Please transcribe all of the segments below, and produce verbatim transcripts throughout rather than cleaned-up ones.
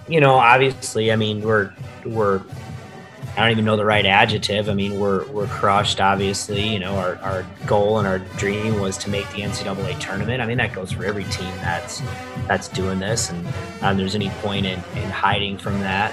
you know, obviously, I mean, we're we're I don't even know the right adjective. I mean, we're we're crushed. Obviously, you know, our, our goal and our dream was to make the N C double A tournament. I mean, that goes for every team that's that's doing this, and um, there's any point in, in hiding from that.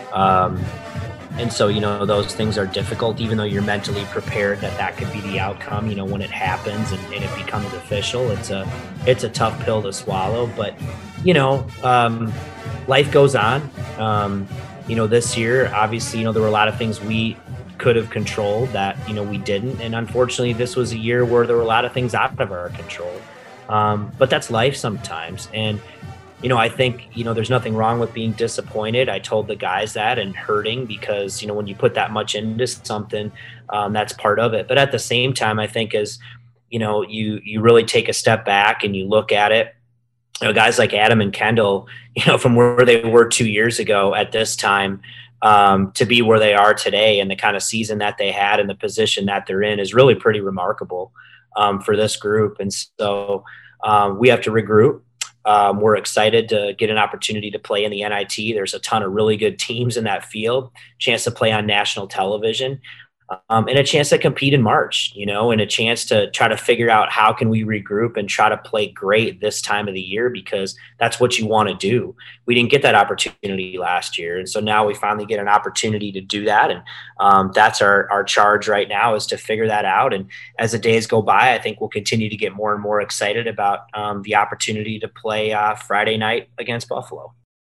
Um, and so, you know, those things are difficult, even though you're mentally prepared that that could be the outcome. You know, when it happens and, and it becomes official, it's a it's a tough pill to swallow. But you know, um, life goes on. Um, you know, this year, obviously, you know, there were a lot of things we could have controlled that, you know, we didn't. And unfortunately, this was a year where there were a lot of things out of our control. Um, but that's life sometimes. And, you know, I think, you know, there's nothing wrong with being disappointed. I told the guys that, and hurting, because, you know, when you put that much into something, um, that's part of it. But at the same time, I think as, you know, you, you really take a step back and you look at it, you know, guys like Adam and Kendall, you know, from where they were two years ago at this time, um, to be where they are today, and the kind of season that they had and the position that they're in is really pretty remarkable um, for this group. And so um, we have to regroup. Um, we're excited to get an opportunity to play in the N I T. There's a ton of really good teams in that field, chance to play on national television. Um, and a chance to compete in March, you know, and a chance to try to figure out how can we regroup and try to play great this time of the year, because that's what you want to do. We didn't get that opportunity last year. And so now we finally get an opportunity to do that. And um, that's our, our charge right now, is to figure that out. And as the days go by, I think we'll continue to get more and more excited about um, the opportunity to play uh, Friday night against Buffalo.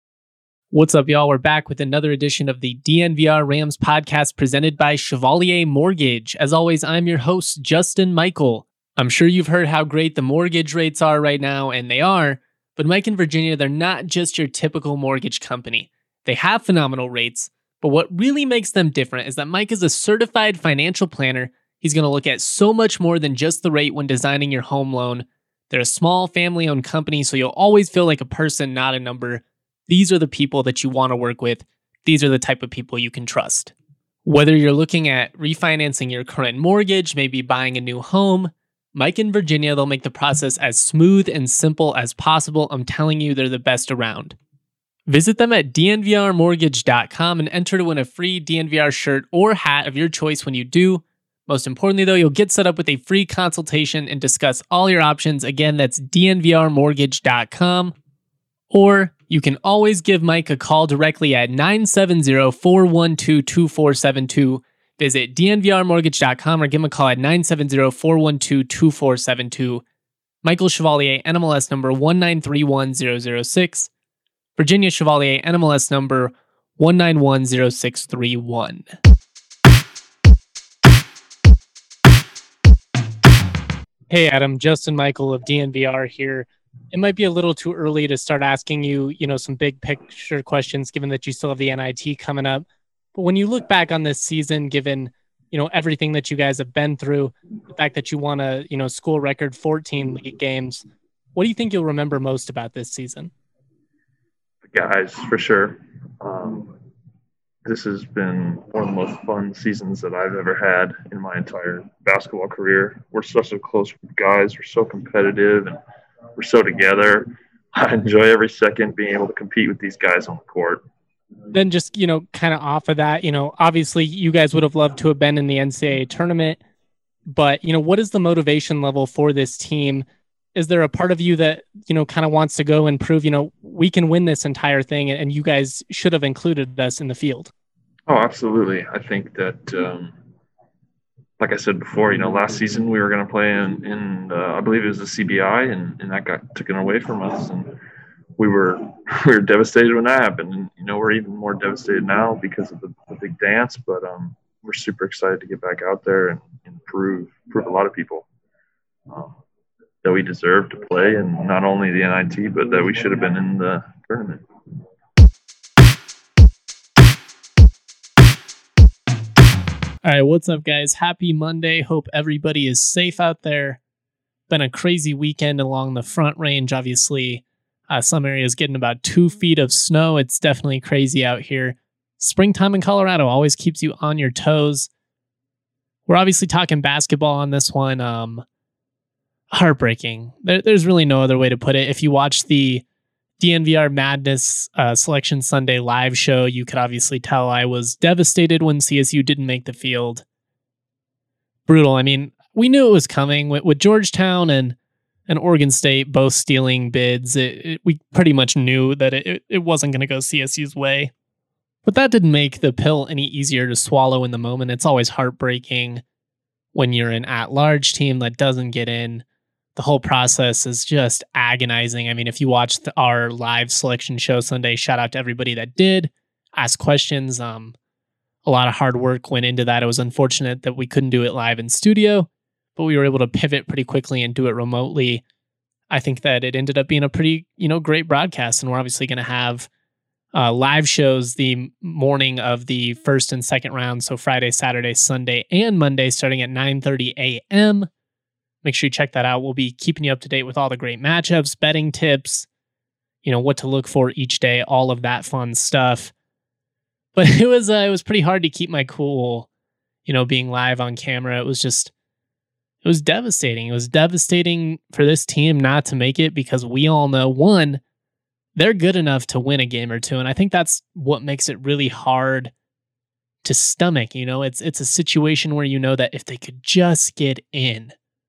What's up, y'all? We're back with another edition of the D N V R Rams podcast presented by Chevalier Mortgage. As always, I'm your host, Justin Michael. I'm sure you've heard how great the mortgage rates are right now, and they are, but Mike and Virginia, they're not just your typical mortgage company. They have phenomenal rates, but what really makes them different is that Mike is a certified financial planner. He's going to look at so much more than just the rate when designing your home loan. They're a small family-owned company, so you'll always feel like a person, not a number. These are the people that you want to work with. These are the type of people you can trust. Whether you're looking at refinancing your current mortgage, maybe buying a new home, Mike and Virginia, they'll make the process as smooth and simple as possible. I'm telling you, they're the best around. Visit them at d n v r mortgage dot com and enter to win a free D N V R shirt or hat of your choice when you do. Most importantly, though, you'll get set up with a free consultation and discuss all your options. Again, that's d n v r mortgage dot com. Or you can always give Mike a call directly at nine seven zero, four one two, two four seven two. Visit d n v r mortgage dot com or give him a call at nine seven zero, four one two, two four seven two. Michael Chevalier, N M L S number one nine three one zero zero six. Virginia Chevalier, N M L S number one nine one zero six three one. Hey Adam, Justin Michael of D N V R here. It might be a little too early to start asking you, you know, some big picture questions, given that you still have the N I T coming up. But when you look back on this season, given, you know, everything that you guys have been through, the fact that you won a, you know, school record fourteen league games, what do you think you'll remember most about this season? The guys, for sure. Um, this has been one of the most fun seasons that I've ever had in my entire basketball career. We're such a close group of guys. We're so competitive, and we're so together. I enjoy every second being able to compete with these guys on the court. Then just, you know, kind of off of that, you know, obviously you guys would have loved to have been in the N C double A tournament, but, you know, what is the motivation level for this team? Is there a part of you that, you know, kind of wants to go and prove, you know, we can win this entire thing and you guys should have included us in the field? Oh, absolutely. I think that, um, like I said before, you know, last season we were going to play in, in uh, I believe it was the C B I, and, and that got taken away from us. And we were we were devastated when that happened. And, you know, we're even more devastated now because of the, the big dance. But um, we're super excited to get back out there and, and prove, prove a lot of people um, that we deserve to play, and not only the N I T, but that we should have been in the tournament. All right, what's up, guys? Happy Monday. Hope everybody is safe out there. Been a crazy weekend along the Front Range, obviously. Uh, some areas getting about two feet of snow. It's definitely crazy out here. Springtime in Colorado always keeps you on your toes. We're obviously talking basketball on this one. Um, heartbreaking. There, there's really no other way to put it. If you watch the D N V R Madness uh, Selection Sunday live show, you could obviously tell I was devastated when C S U didn't make the field. Brutal. I mean, we knew it was coming with, with Georgetown and, and Oregon State both stealing bids. It, it, we pretty much knew that it, it wasn't going to go C S U's way. But that didn't make the pill any easier to swallow in the moment. It's always heartbreaking when you're an at-large team that doesn't get in. The whole process is just agonizing. I mean, if you watched our live selection show Sunday, shout out to everybody that did ask questions. Um, a lot of hard work went into that. It was unfortunate that we couldn't do it live in studio, but we were able to pivot pretty quickly and do it remotely. I think that it ended up being a pretty, you know, great broadcast, and we're obviously going to have uh, live shows the morning of the first and second round, so Friday, Saturday, Sunday, and Monday, starting at nine thirty a.m. Make sure you check that out. We'll be keeping you up to date with all the great matchups, betting tips, you know, what to look for each day, all of that fun stuff. But it was uh, it was pretty hard to keep my cool, you know, being live on camera. It was just, it was devastating. It was devastating for this team not to make it because we all know, one, they're good enough to win a game or two. And I think that's what makes it really hard to stomach. You know, it's it's a situation where you know that if they could just get in,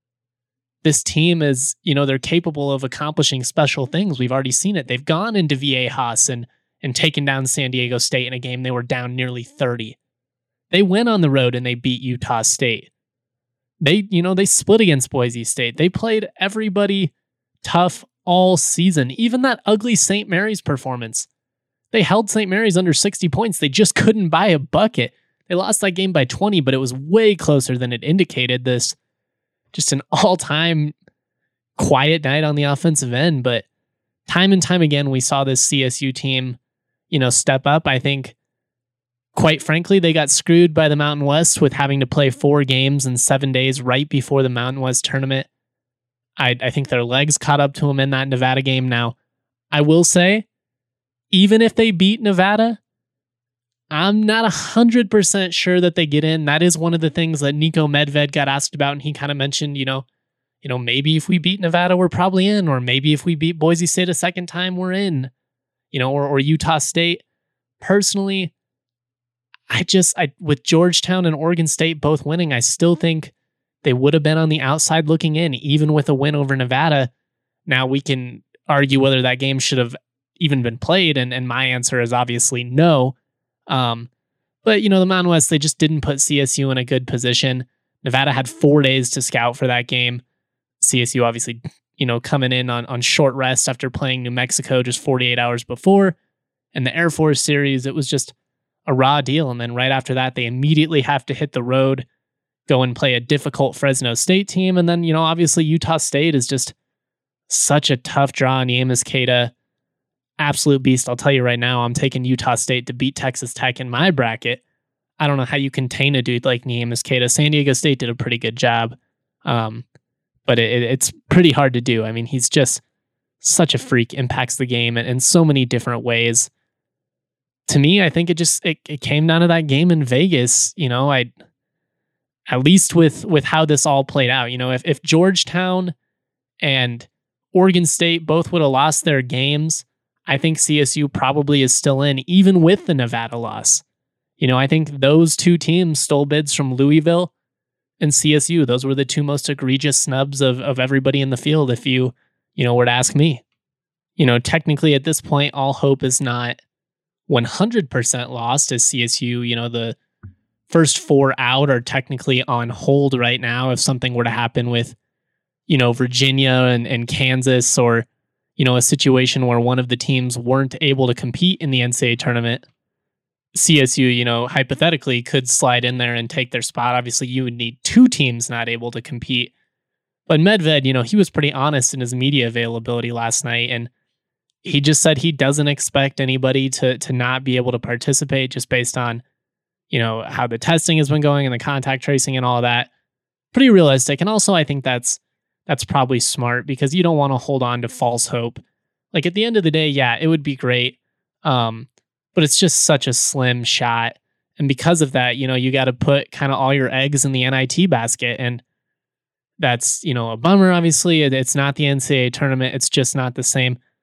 this team is, you know, they're capable of accomplishing special things. We've already seen it. They've gone into Viejas and, and taken down San Diego State in a game they were down nearly thirty. They went on the road and they beat Utah State. They, you know, they split against Boise State. They played everybody tough all season. Even that ugly Saint Mary's performance. They held Saint Mary's under sixty points. They just couldn't buy a bucket. They lost that game by twenty, but it was way closer than it indicated. This just an all-time quiet night on the offensive end, but time and time again, we saw this C S U team, you know, step up. I think, quite frankly, they got screwed by the Mountain West with having to play four games in seven days right before the Mountain West tournament. I, I think their legs caught up to them in that Nevada game. Now, I will say, even if they beat Nevada, I'm not one hundred percent sure that they get in. That is one of the things that Nico Medved got asked about, and he kind of mentioned, you know, you know, maybe if we beat Nevada, we're probably in, or maybe if we beat Boise State a second time, we're in, you know, or, or Utah State. Personally, I just, I with Georgetown and Oregon State both winning, I still think they would have been on the outside looking in, even with a win over Nevada. Now, we can argue whether that game should have even been played, and, and my answer is obviously no. Um, but, you know, the Mountain West, they just didn't put C S U in a good position. Nevada had four days to scout for that game. C S U obviously, you know, coming in on, on short rest after playing New Mexico just forty-eight hours before. And the Air Force series, it was just a raw deal. And then right after that, they immediately have to hit the road, go and play a difficult Fresno State team. And then, you know, obviously Utah State is just such a tough draw. Neemias Queta, absolute beast. I'll tell you right now, I'm taking Utah State to beat Texas Tech in my bracket. I don't know how you contain a dude like Neemias Queta. San Diego State did a pretty good job, um, but it, it's pretty hard to do. I mean, he's just such a freak, impacts the game in, in so many different ways. To me, I think it just it, it came down to that game in Vegas. You know, I at least with with how this all played out. You know, if if Georgetown and Oregon State both would have lost their games, I think C S U probably is still in, even with the Nevada loss. You know, I think those two teams stole bids from Louisville and C S U. Those were the two most egregious snubs of, of everybody in the field, if you, you know, were to ask me. You know, technically at this point, all hope is not one hundred percent lost as C S U. You know, the first four out are technically on hold right now. If something were to happen with, you know, Virginia and, and Kansas, or, you know, a situation where one of the teams weren't able to compete in the N C double A tournament, C S U, you know, hypothetically could slide in there and take their spot. Obviously, you would need two teams not able to compete. But Medved, you know, he was pretty honest in his media availability last night, and he just said he doesn't expect anybody to to not be able to participate just based on, you know, how the testing has been going and the contact tracing and all of that. Pretty realistic. And also, I think that's that's probably smart, because you don't want to hold on to false hope. Like, at the end of the day, yeah, it would be great. Um, but it's just such a slim shot. And because of that, you know, you got to put kind of all your eggs in the N I T basket. And that's, you know, a bummer, obviously. It, it's not the N C double A tournament. It's just not the same.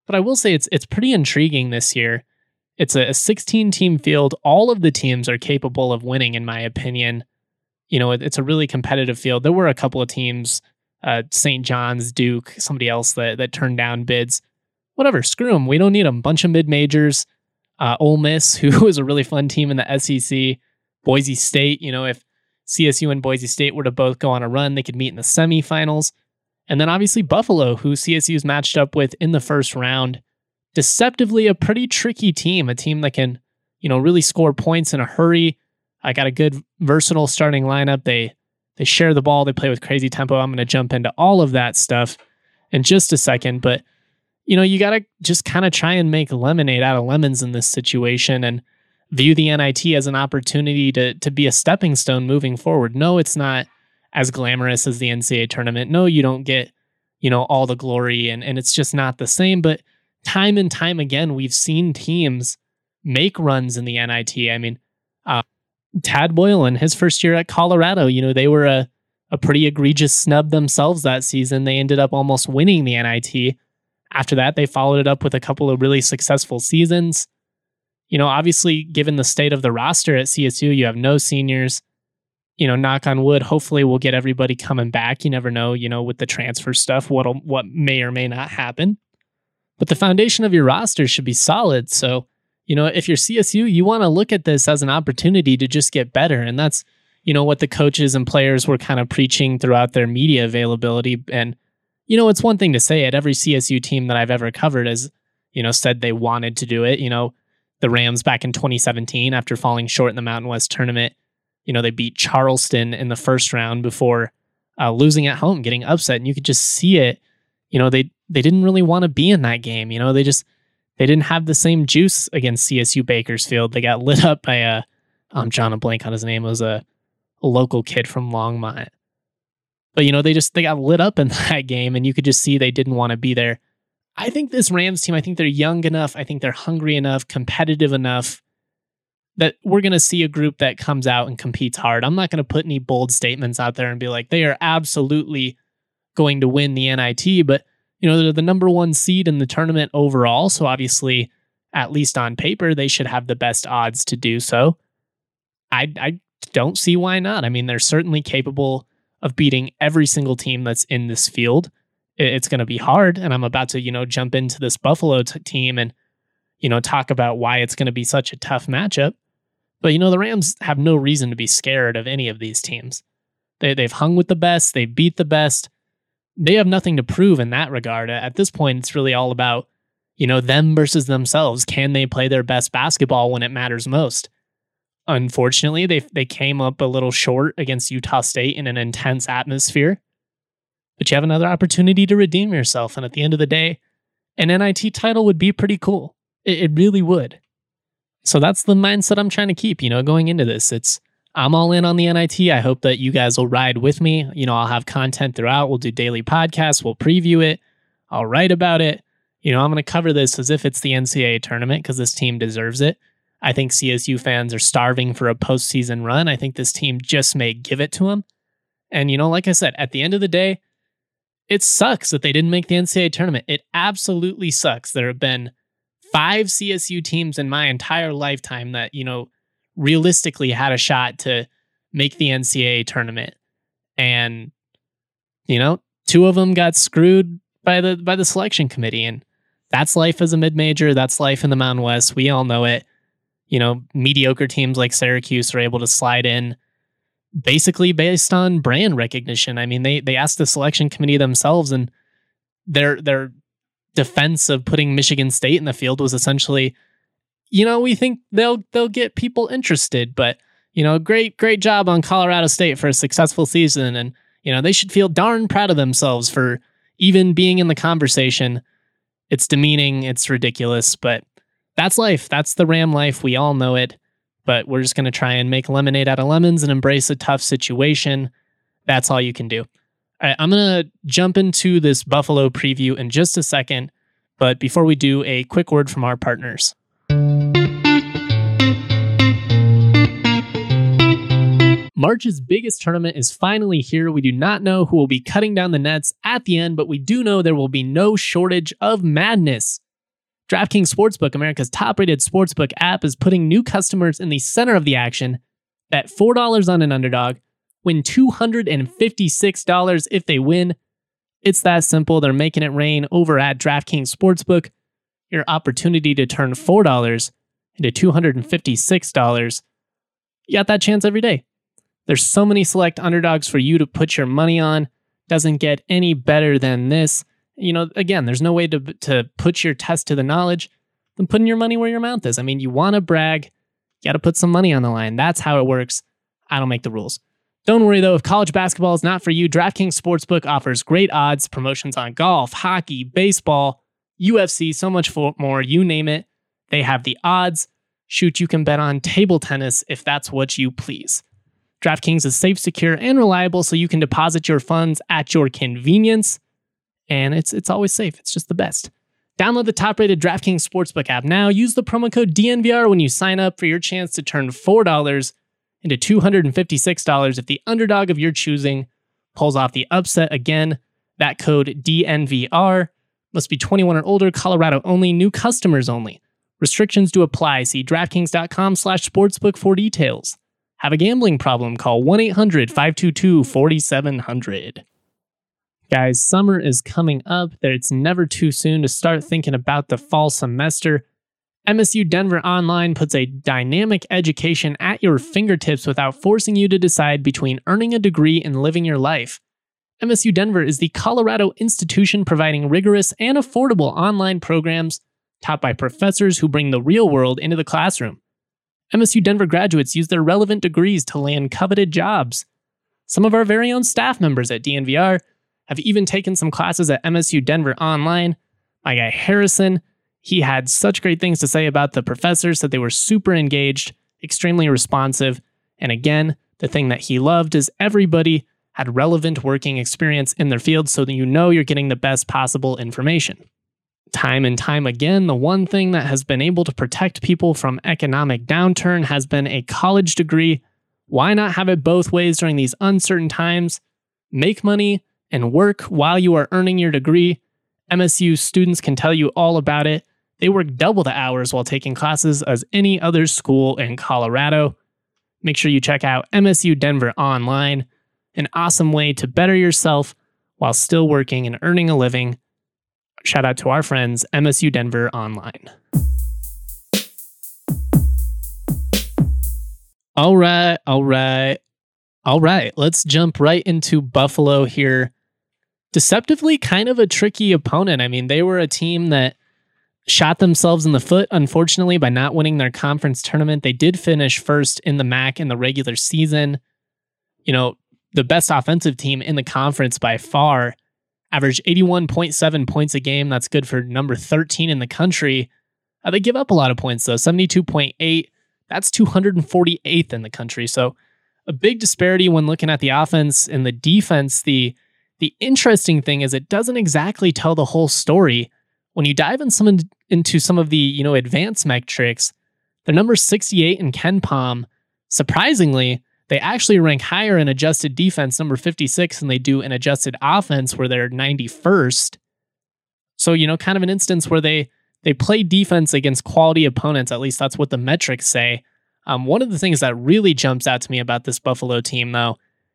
But I will say it's it's pretty intriguing this year. It's a sixteen-team field. All of the teams are capable of winning, in my opinion. You know, it, it's a really competitive field. There were a couple of teams, uh, Saint John's, Duke, somebody else that that turned down bids. Whatever, screw them. We don't need them. Bunch of mid-majors. Uh, Ole Miss, who is a really fun team in the S E C. Boise State, you know, if C S U and Boise State were to both go on a run, they could meet in the semifinals. And then obviously Buffalo, who C S U's matched up with in the first round. Deceptively a pretty tricky team, a team that can, you know, really score points in a hurry. I got a good versatile starting lineup. They they share the ball, they play with crazy tempo. I'm going to jump into all of that stuff in just a second, but you know, you got to just kind of try and make lemonade out of lemons in this situation and view the N I T as an opportunity to to be a stepping stone moving forward. No, it's not as glamorous as the N C double A tournament. No, you don't get, you know, all the glory and, and it's just not the same. But time and time again, we've seen teams make runs in the N I T. I mean, uh, Tad Boylan, his first year at Colorado, you know, they were a, a pretty egregious snub themselves that season. They ended up almost winning the N I T. After that, they followed it up with a couple of really successful seasons. You know, obviously, given the state of the roster at C S U, you have no seniors. You know, knock on wood, hopefully we'll get everybody coming back. You never know, you know, with the transfer stuff, what'll, what may or may not happen. But the foundation of your roster should be solid. So, you know, if you're C S U, you want to look at this as an opportunity to just get better. And that's, you know, what the coaches and players were kind of preaching throughout their media availability. And, you know, it's one thing to say it. Every C S U team that I've ever covered has, you know, said they wanted to do it. You know, the Rams back in twenty seventeen, after falling short in the Mountain West tournament, you know, they beat Charleston in the first round before uh, losing at home, getting upset. And you could just see it. You know, they they didn't really want to be in that game. You know, they just, they didn't have the same juice against C S U Bakersfield. They got lit up by a, I'm drawing a blank on his name. It was a, a local kid from Longmont. But, you know, they just, they got lit up in that game and you could just see they didn't want to be there. I think this Rams team, I think they're young enough. I think they're hungry enough, competitive enough that we're going to see a group that comes out and competes hard. I'm not going to put any bold statements out there and be like, they are absolutely going to win the N I T, but you know, they're the number one seed in the tournament overall. So obviously, at least on paper, they should have the best odds to do so. I, I don't see why not. I mean, they're certainly capable of beating every single team that's in this field. It's going to be hard. And I'm about to, you know, jump into this Buffalo t- team and, you know, talk about why it's going to be such a tough matchup. But, you know, the Rams have no reason to be scared of any of these teams. They, they've hung with the best. They beat the best. They have nothing to prove in that regard. At this point, it's really all about, you know, them versus themselves. Can they play their best basketball when it matters most? Unfortunately, they they came up a little short against Utah State in an intense atmosphere. But you have another opportunity to redeem yourself. And at the end of the day, an N I T title would be pretty cool. It, it really would. So that's the mindset I'm trying to keep, you know, going into this. It's, I'm all in on the N I T. I hope that you guys will ride with me. You know, I'll have content throughout. We'll do daily podcasts. We'll preview it. I'll write about it. You know, I'm going to cover this as if it's the N C double A tournament because this team deserves it. I think C S U fans are starving for a postseason run. I think this team just may give it to them. And, you know, like I said, at the end of the day, it sucks that they didn't make the N C double A tournament. It absolutely sucks. There have been five C S U teams in my entire lifetime that, you know, realistically had a shot to make the N C double A tournament. And, you know, two of them got screwed by the by the selection committee. And that's life as a mid-major. That's life in the Mountain West. We all know it. You know, mediocre teams like Syracuse are able to slide in basically based on brand recognition. I mean, they they asked the selection committee themselves, and their their defense of putting Michigan State in the field was essentially, you know, we think they'll they'll get people interested, but you know, great great job on Colorado State for a successful season, and you know, they should feel darn proud of themselves for even being in the conversation. It's demeaning, it's ridiculous, but that's life. That's the Ram life. We all know it. But we're just going to try and make lemonade out of lemons and embrace a tough situation. That's all you can do. All right, I'm going to jump into this Buffalo preview in just a second. But before we do, a quick word from our partners. March's biggest tournament is finally here. We do not know who will be cutting down the nets at the end, but we do know there will be no shortage of madness. DraftKings Sportsbook, America's top-rated sportsbook app, is putting new customers in the center of the action. Bet four dollars on an underdog, win two hundred fifty-six dollars if they win. It's that simple. They're making it rain over at DraftKings Sportsbook. Your opportunity to turn four dollars into two hundred fifty-six dollars. You got that chance every day. There's so many select underdogs for you to put your money on. Doesn't get any better than this. You know, again, there's no way to to put your test to the knowledge than putting your money where your mouth is. I mean, you want to brag, you got to put some money on the line. That's how it works. I don't make the rules. Don't worry, though, if college basketball is not for you, DraftKings Sportsbook offers great odds, promotions on golf, hockey, baseball, U F C, so much more, you name it. They have the odds. Shoot, you can bet on table tennis if that's what you please. DraftKings is safe, secure, and reliable, so you can deposit your funds at your convenience. And it's it's always safe. It's just the best. Download the top-rated DraftKings Sportsbook app now. Use the promo code D N V R when you sign up for your chance to turn four dollars into two hundred fifty-six dollars if the underdog of your choosing pulls off the upset again. That code D N V R must be twenty-one or older, Colorado only, new customers only. Restrictions do apply. See DraftKings.com slash sportsbook for details. Have a gambling problem? Call one eight hundred five two two four seven zero zero. Guys, summer is coming up. It's never too soon to start thinking about the fall semester. M S U Denver Online puts a dynamic education at your fingertips without forcing you to decide between earning a degree and living your life. M S U Denver is the Colorado institution providing rigorous and affordable online programs taught by professors who bring the real world into the classroom. M S U Denver graduates use their relevant degrees to land coveted jobs. Some of our very own staff members at D N V R have even taken some classes at M S U Denver Online. My guy Harrison, he had such great things to say about the professors, that they were super engaged, extremely responsive. And again, the thing that he loved is everybody had relevant working experience in their field, so that you know you're getting the best possible information. Time and time again, the one thing that has been able to protect people from economic downturn has been a college degree. Why not have it both ways during these uncertain times? Make money and work while you are earning your degree. M S U students can tell you all about it. They work double the hours while taking classes as any other school in Colorado. Make sure you check out M S U Denver Online, an awesome way to better yourself while still working and earning a living. Shout out to our friends, M S U Denver Online. All right, all right, all right. Let's jump right into Buffalo here. Deceptively kind of a tricky opponent. I mean, they were a team that shot themselves in the foot, unfortunately, by not winning their conference tournament. They did finish first in the M A C in the regular season. You know, the best offensive team in the conference by far. Averaged eighty-one point seven points a game. That's good for number thirteen in the country. Uh, they give up a lot of points, though. seventy-two point eight. That's two hundred forty-eighth in the country. So a big disparity when looking at the offense and the defense. The The interesting thing is it doesn't exactly tell the whole story. When you dive in some, into some of the, you know, advanced metrics, they're number sixty-eight in KenPom. Surprisingly, they actually rank higher in adjusted defense, number fifty-six, than they do in adjusted offense, where they're ninety-first. So, you know, kind of an instance where they they play defense against quality opponents. At least that's what the metrics say. Um, one of the things that really jumps out to me about this Buffalo team, though,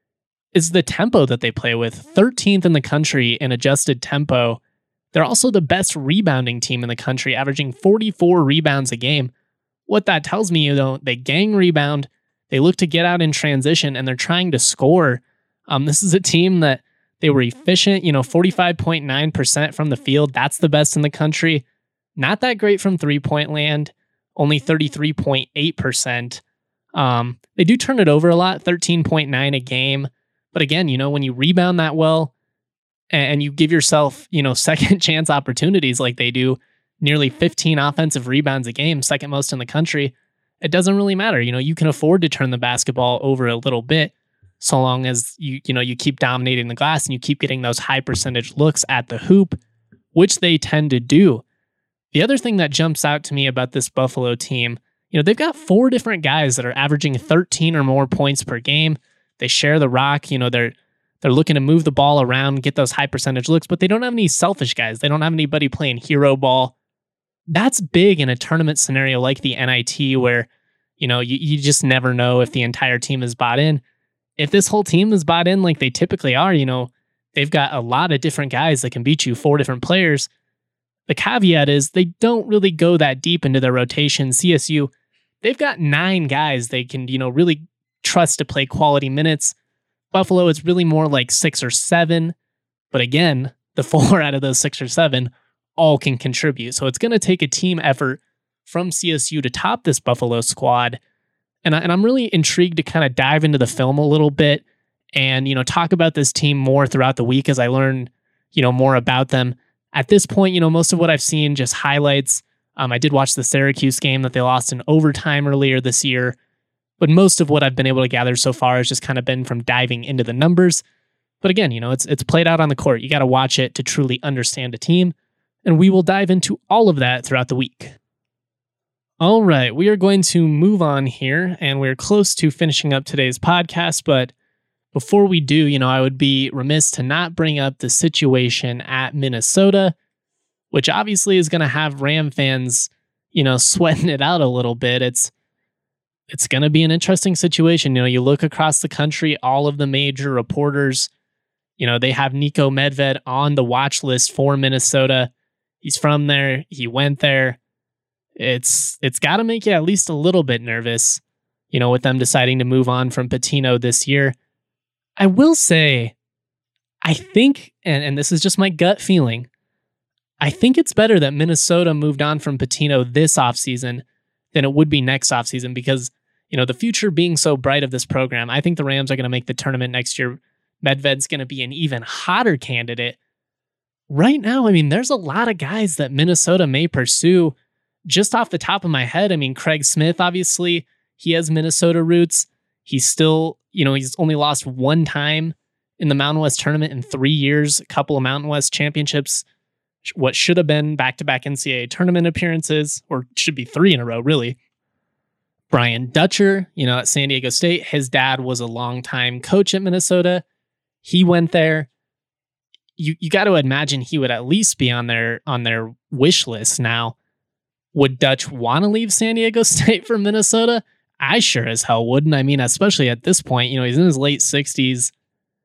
is the tempo that they play with. thirteenth in the country in adjusted tempo. They're also the best rebounding team in the country, averaging forty-four rebounds a game. What that tells me, you know, they gang rebound, they look to get out in transition, and they're trying to score. Um, this is a team that they were efficient, you know, forty-five point nine percent from the field. That's the best in the country. Not that great from three-point land, only thirty-three point eight percent. Um, they do turn it over a lot, thirteen point nine a game. But again, you know, when you rebound that well and you give yourself, you know, second chance opportunities like they do, nearly fifteen offensive rebounds a game, second most in the country, it doesn't really matter. You know, you can afford to turn the basketball over a little bit so long as you, you know, you keep dominating the glass and you keep getting those high percentage looks at the hoop, which they tend to do. The other thing that jumps out to me about this Buffalo team, you know, they've got four different guys that are averaging thirteen or more points per game. They share the rock. You know, they're they're looking to move the ball around, get those high percentage looks, but they don't have any selfish guys. They don't have anybody playing hero ball. that's big in a tournament scenario like the N I T where, you know, you, you just never know if the entire team is bought in. If this whole team is bought in like they typically are, you know, they've got a lot of different guys that can beat you, four different players. The caveat is they don't really go that deep into their rotation. C S U, they've got nine guys they can, you know, really trust to play quality minutes. Buffalo, it's really more like six or seven. But again, the four out of those six or seven all can contribute. So it's going to take a team effort from C S U to top this Buffalo squad. And, I, and I'm really intrigued to kind of dive into the film a little bit and, you know, talk about this team more throughout the week as I learn, you know, more about them. At this point, you know, most of what I've seen just highlights. Um, I did watch the Syracuse game that they lost in overtime earlier this year, but most of what I've been able to gather so far has just kind of been from diving into the numbers. But again, you know, it's it's played out on the court. You got to watch it to truly understand a team, and we will dive into all of that throughout the week. All right, we are going to move on here, and we're close to finishing up today's podcast, but before we do, you know, I would be remiss to not bring up the situation at Minnesota, which obviously is going to have Ram fans, you know, sweating it out a little bit. It's it's going to be an interesting situation. You know, you look across the country, all of the major reporters, you know, they have Niko Medved on the watch list for Minnesota. He's from there. He went there. It's it's got to make you at least a little bit nervous, you know, with them deciding to move on from Pitino this year. I will say, I think, and, and this is just my gut feeling, I think it's better that Minnesota moved on from Pitino this offseason than it would be next offseason because, you know, the future being so bright of this program, I think the Rams are going to make the tournament next year. Medved's going to be an even hotter candidate. Right now, I mean, there's a lot of guys that Minnesota may pursue. Just off the top of my head, I mean, Craig Smith, obviously, he has Minnesota roots. He's still, you know, he's only lost one time in the Mountain West tournament in three years, a couple of Mountain West championships, what should have been back-to-back N C double A tournament appearances, or should be three in a row, really. Brian Dutcher, you know, at San Diego State, his dad was a longtime coach at Minnesota. He went there. You you got to imagine he would at least be on their on their wish list now. Would Dutch want to leave San Diego State for Minnesota? I sure as hell wouldn't. I mean, especially at this point, you know, he's in his late sixties.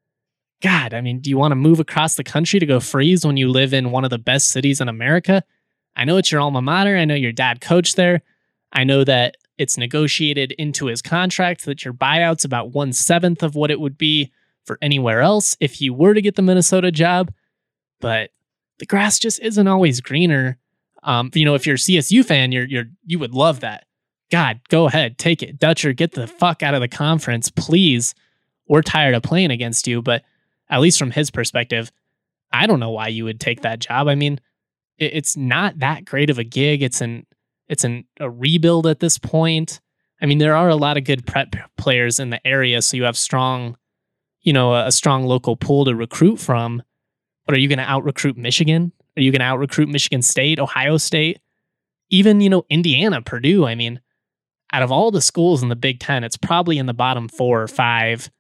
God, I mean, do you want to move across the country to go freeze when you live in one of the best cities in America? I know it's your alma mater. I know your dad coached there. I know that it's negotiated into his contract that your buyout's about one seventh of what it would be for anywhere else if you were to get the Minnesota job. But the grass just isn't always greener. Um, you know, if you're a C S U fan, you're you're you would love that. God, go ahead, take it. Dutcher, get the fuck out of the conference, please. We're tired of playing against you. But at least from his perspective, I don't know why you would take that job. I mean, it, it's not that great of a gig. It's an it's an a rebuild at this point. I mean, there are a lot of good prep players in the area, so you have strong, you know, a, a strong local pool to recruit from. But are you going to out recruit Michigan? Are you going to out recruit Michigan State, Ohio State, even, you know, Indiana, Purdue? I mean, out of all the schools in the Big Ten, it's probably in the bottom four or five.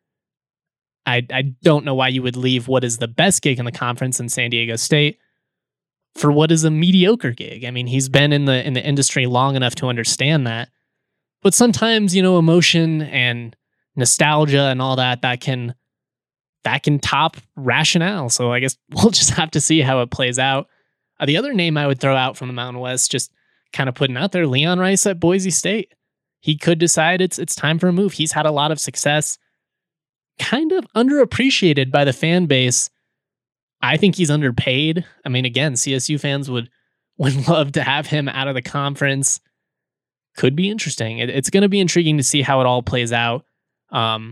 I, I don't know why you would leave what is the best gig in the conference in San Diego State for what is a mediocre gig. I mean, he's been in the in the industry long enough to understand that. But sometimes, you know, emotion and nostalgia and all that, that can that can top rationale. So I guess we'll just have to see how it plays out. Uh, the other name I would throw out from the Mountain West, just kind of putting out there, Leon Rice at Boise State. He could decide it's it's time for a move. He's had a lot of success. Kind of underappreciated by the fan base. I think he's underpaid. I mean, again, C S U fans would would love to have him out of the conference. Could be interesting. It, it's going to be intriguing to see how it all plays out. Um,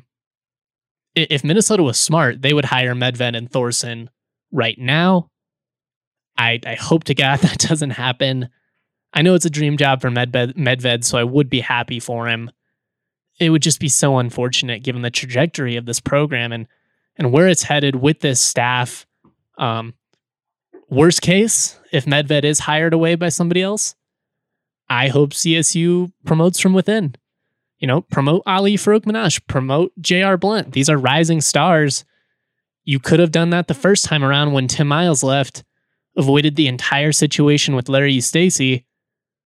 if Minnesota was smart, they would hire Medved and Thorson right now. I, I hope to God that doesn't happen. I know it's a dream job for Medved, Medved, so I would be happy for him. It would just be so unfortunate given the trajectory of this program and and where it's headed with this staff. Um, worst case, if Medved is hired away by somebody else, I hope C S U promotes from within. You know, promote Ali Farouk-Minash, promote J R. Blunt. These are rising stars. You could have done that the first time around when Tim Miles left, avoided the entire situation with Larry Eustachy,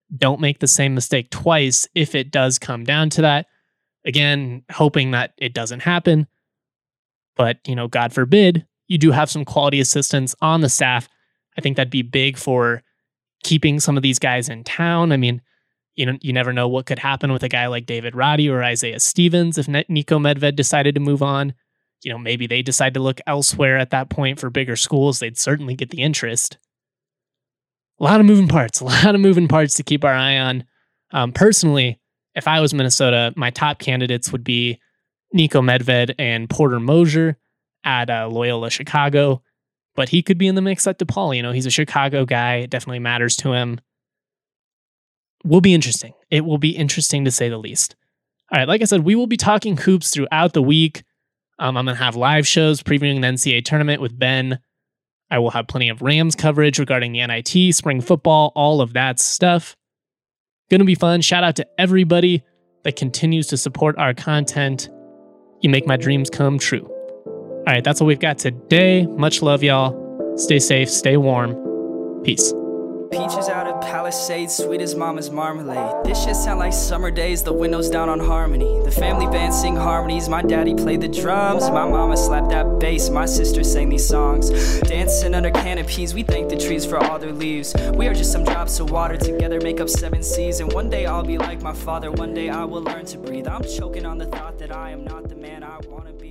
don't make the same mistake twice if it does come down to that. Again, hoping that it doesn't happen. But, you know, God forbid, you do have some quality assistants on the staff. I think that'd be big for keeping some of these guys in town. I mean, you know, you never know what could happen with a guy like David Roddy or Isaiah Stevens if Niko Medved decided to move on. You know, maybe they decide to look elsewhere at that point for bigger schools. They'd certainly get the interest. A lot of moving parts, a lot of moving parts to keep our eye on. Um, personally, if I was Minnesota, my top candidates would be Niko Medved and Porter Moser at uh, Loyola Chicago. But he could be in the mix at DePaul. You know, he's a Chicago guy. It definitely matters to him. Will be interesting. It will be interesting to say the least. All right, like I said, we will be talking hoops throughout the week. Um, I'm going to have live shows previewing the N C double A tournament with Ben. I will have plenty of Rams coverage regarding the N I T, spring football, all of that stuff. Going to be fun. Shout out to everybody that continues to support our content. You make my dreams come true. All right, that's what we've got today. Much love, y'all. Stay safe, stay warm. Peace. Peaches out of Palisades, sweet as mama's marmalade. This shit sound like summer days, the windows down on Harmony. The family band sing harmonies, my daddy played the drums. My mama slapped that bass, my sister sang these songs. Dancing under canopies, we thank the trees for all their leaves. We are just some drops of water, together make up seven seas. And one day I'll be like my father, one day I will learn to breathe. I'm choking on the thought that I am not the man I wanna be.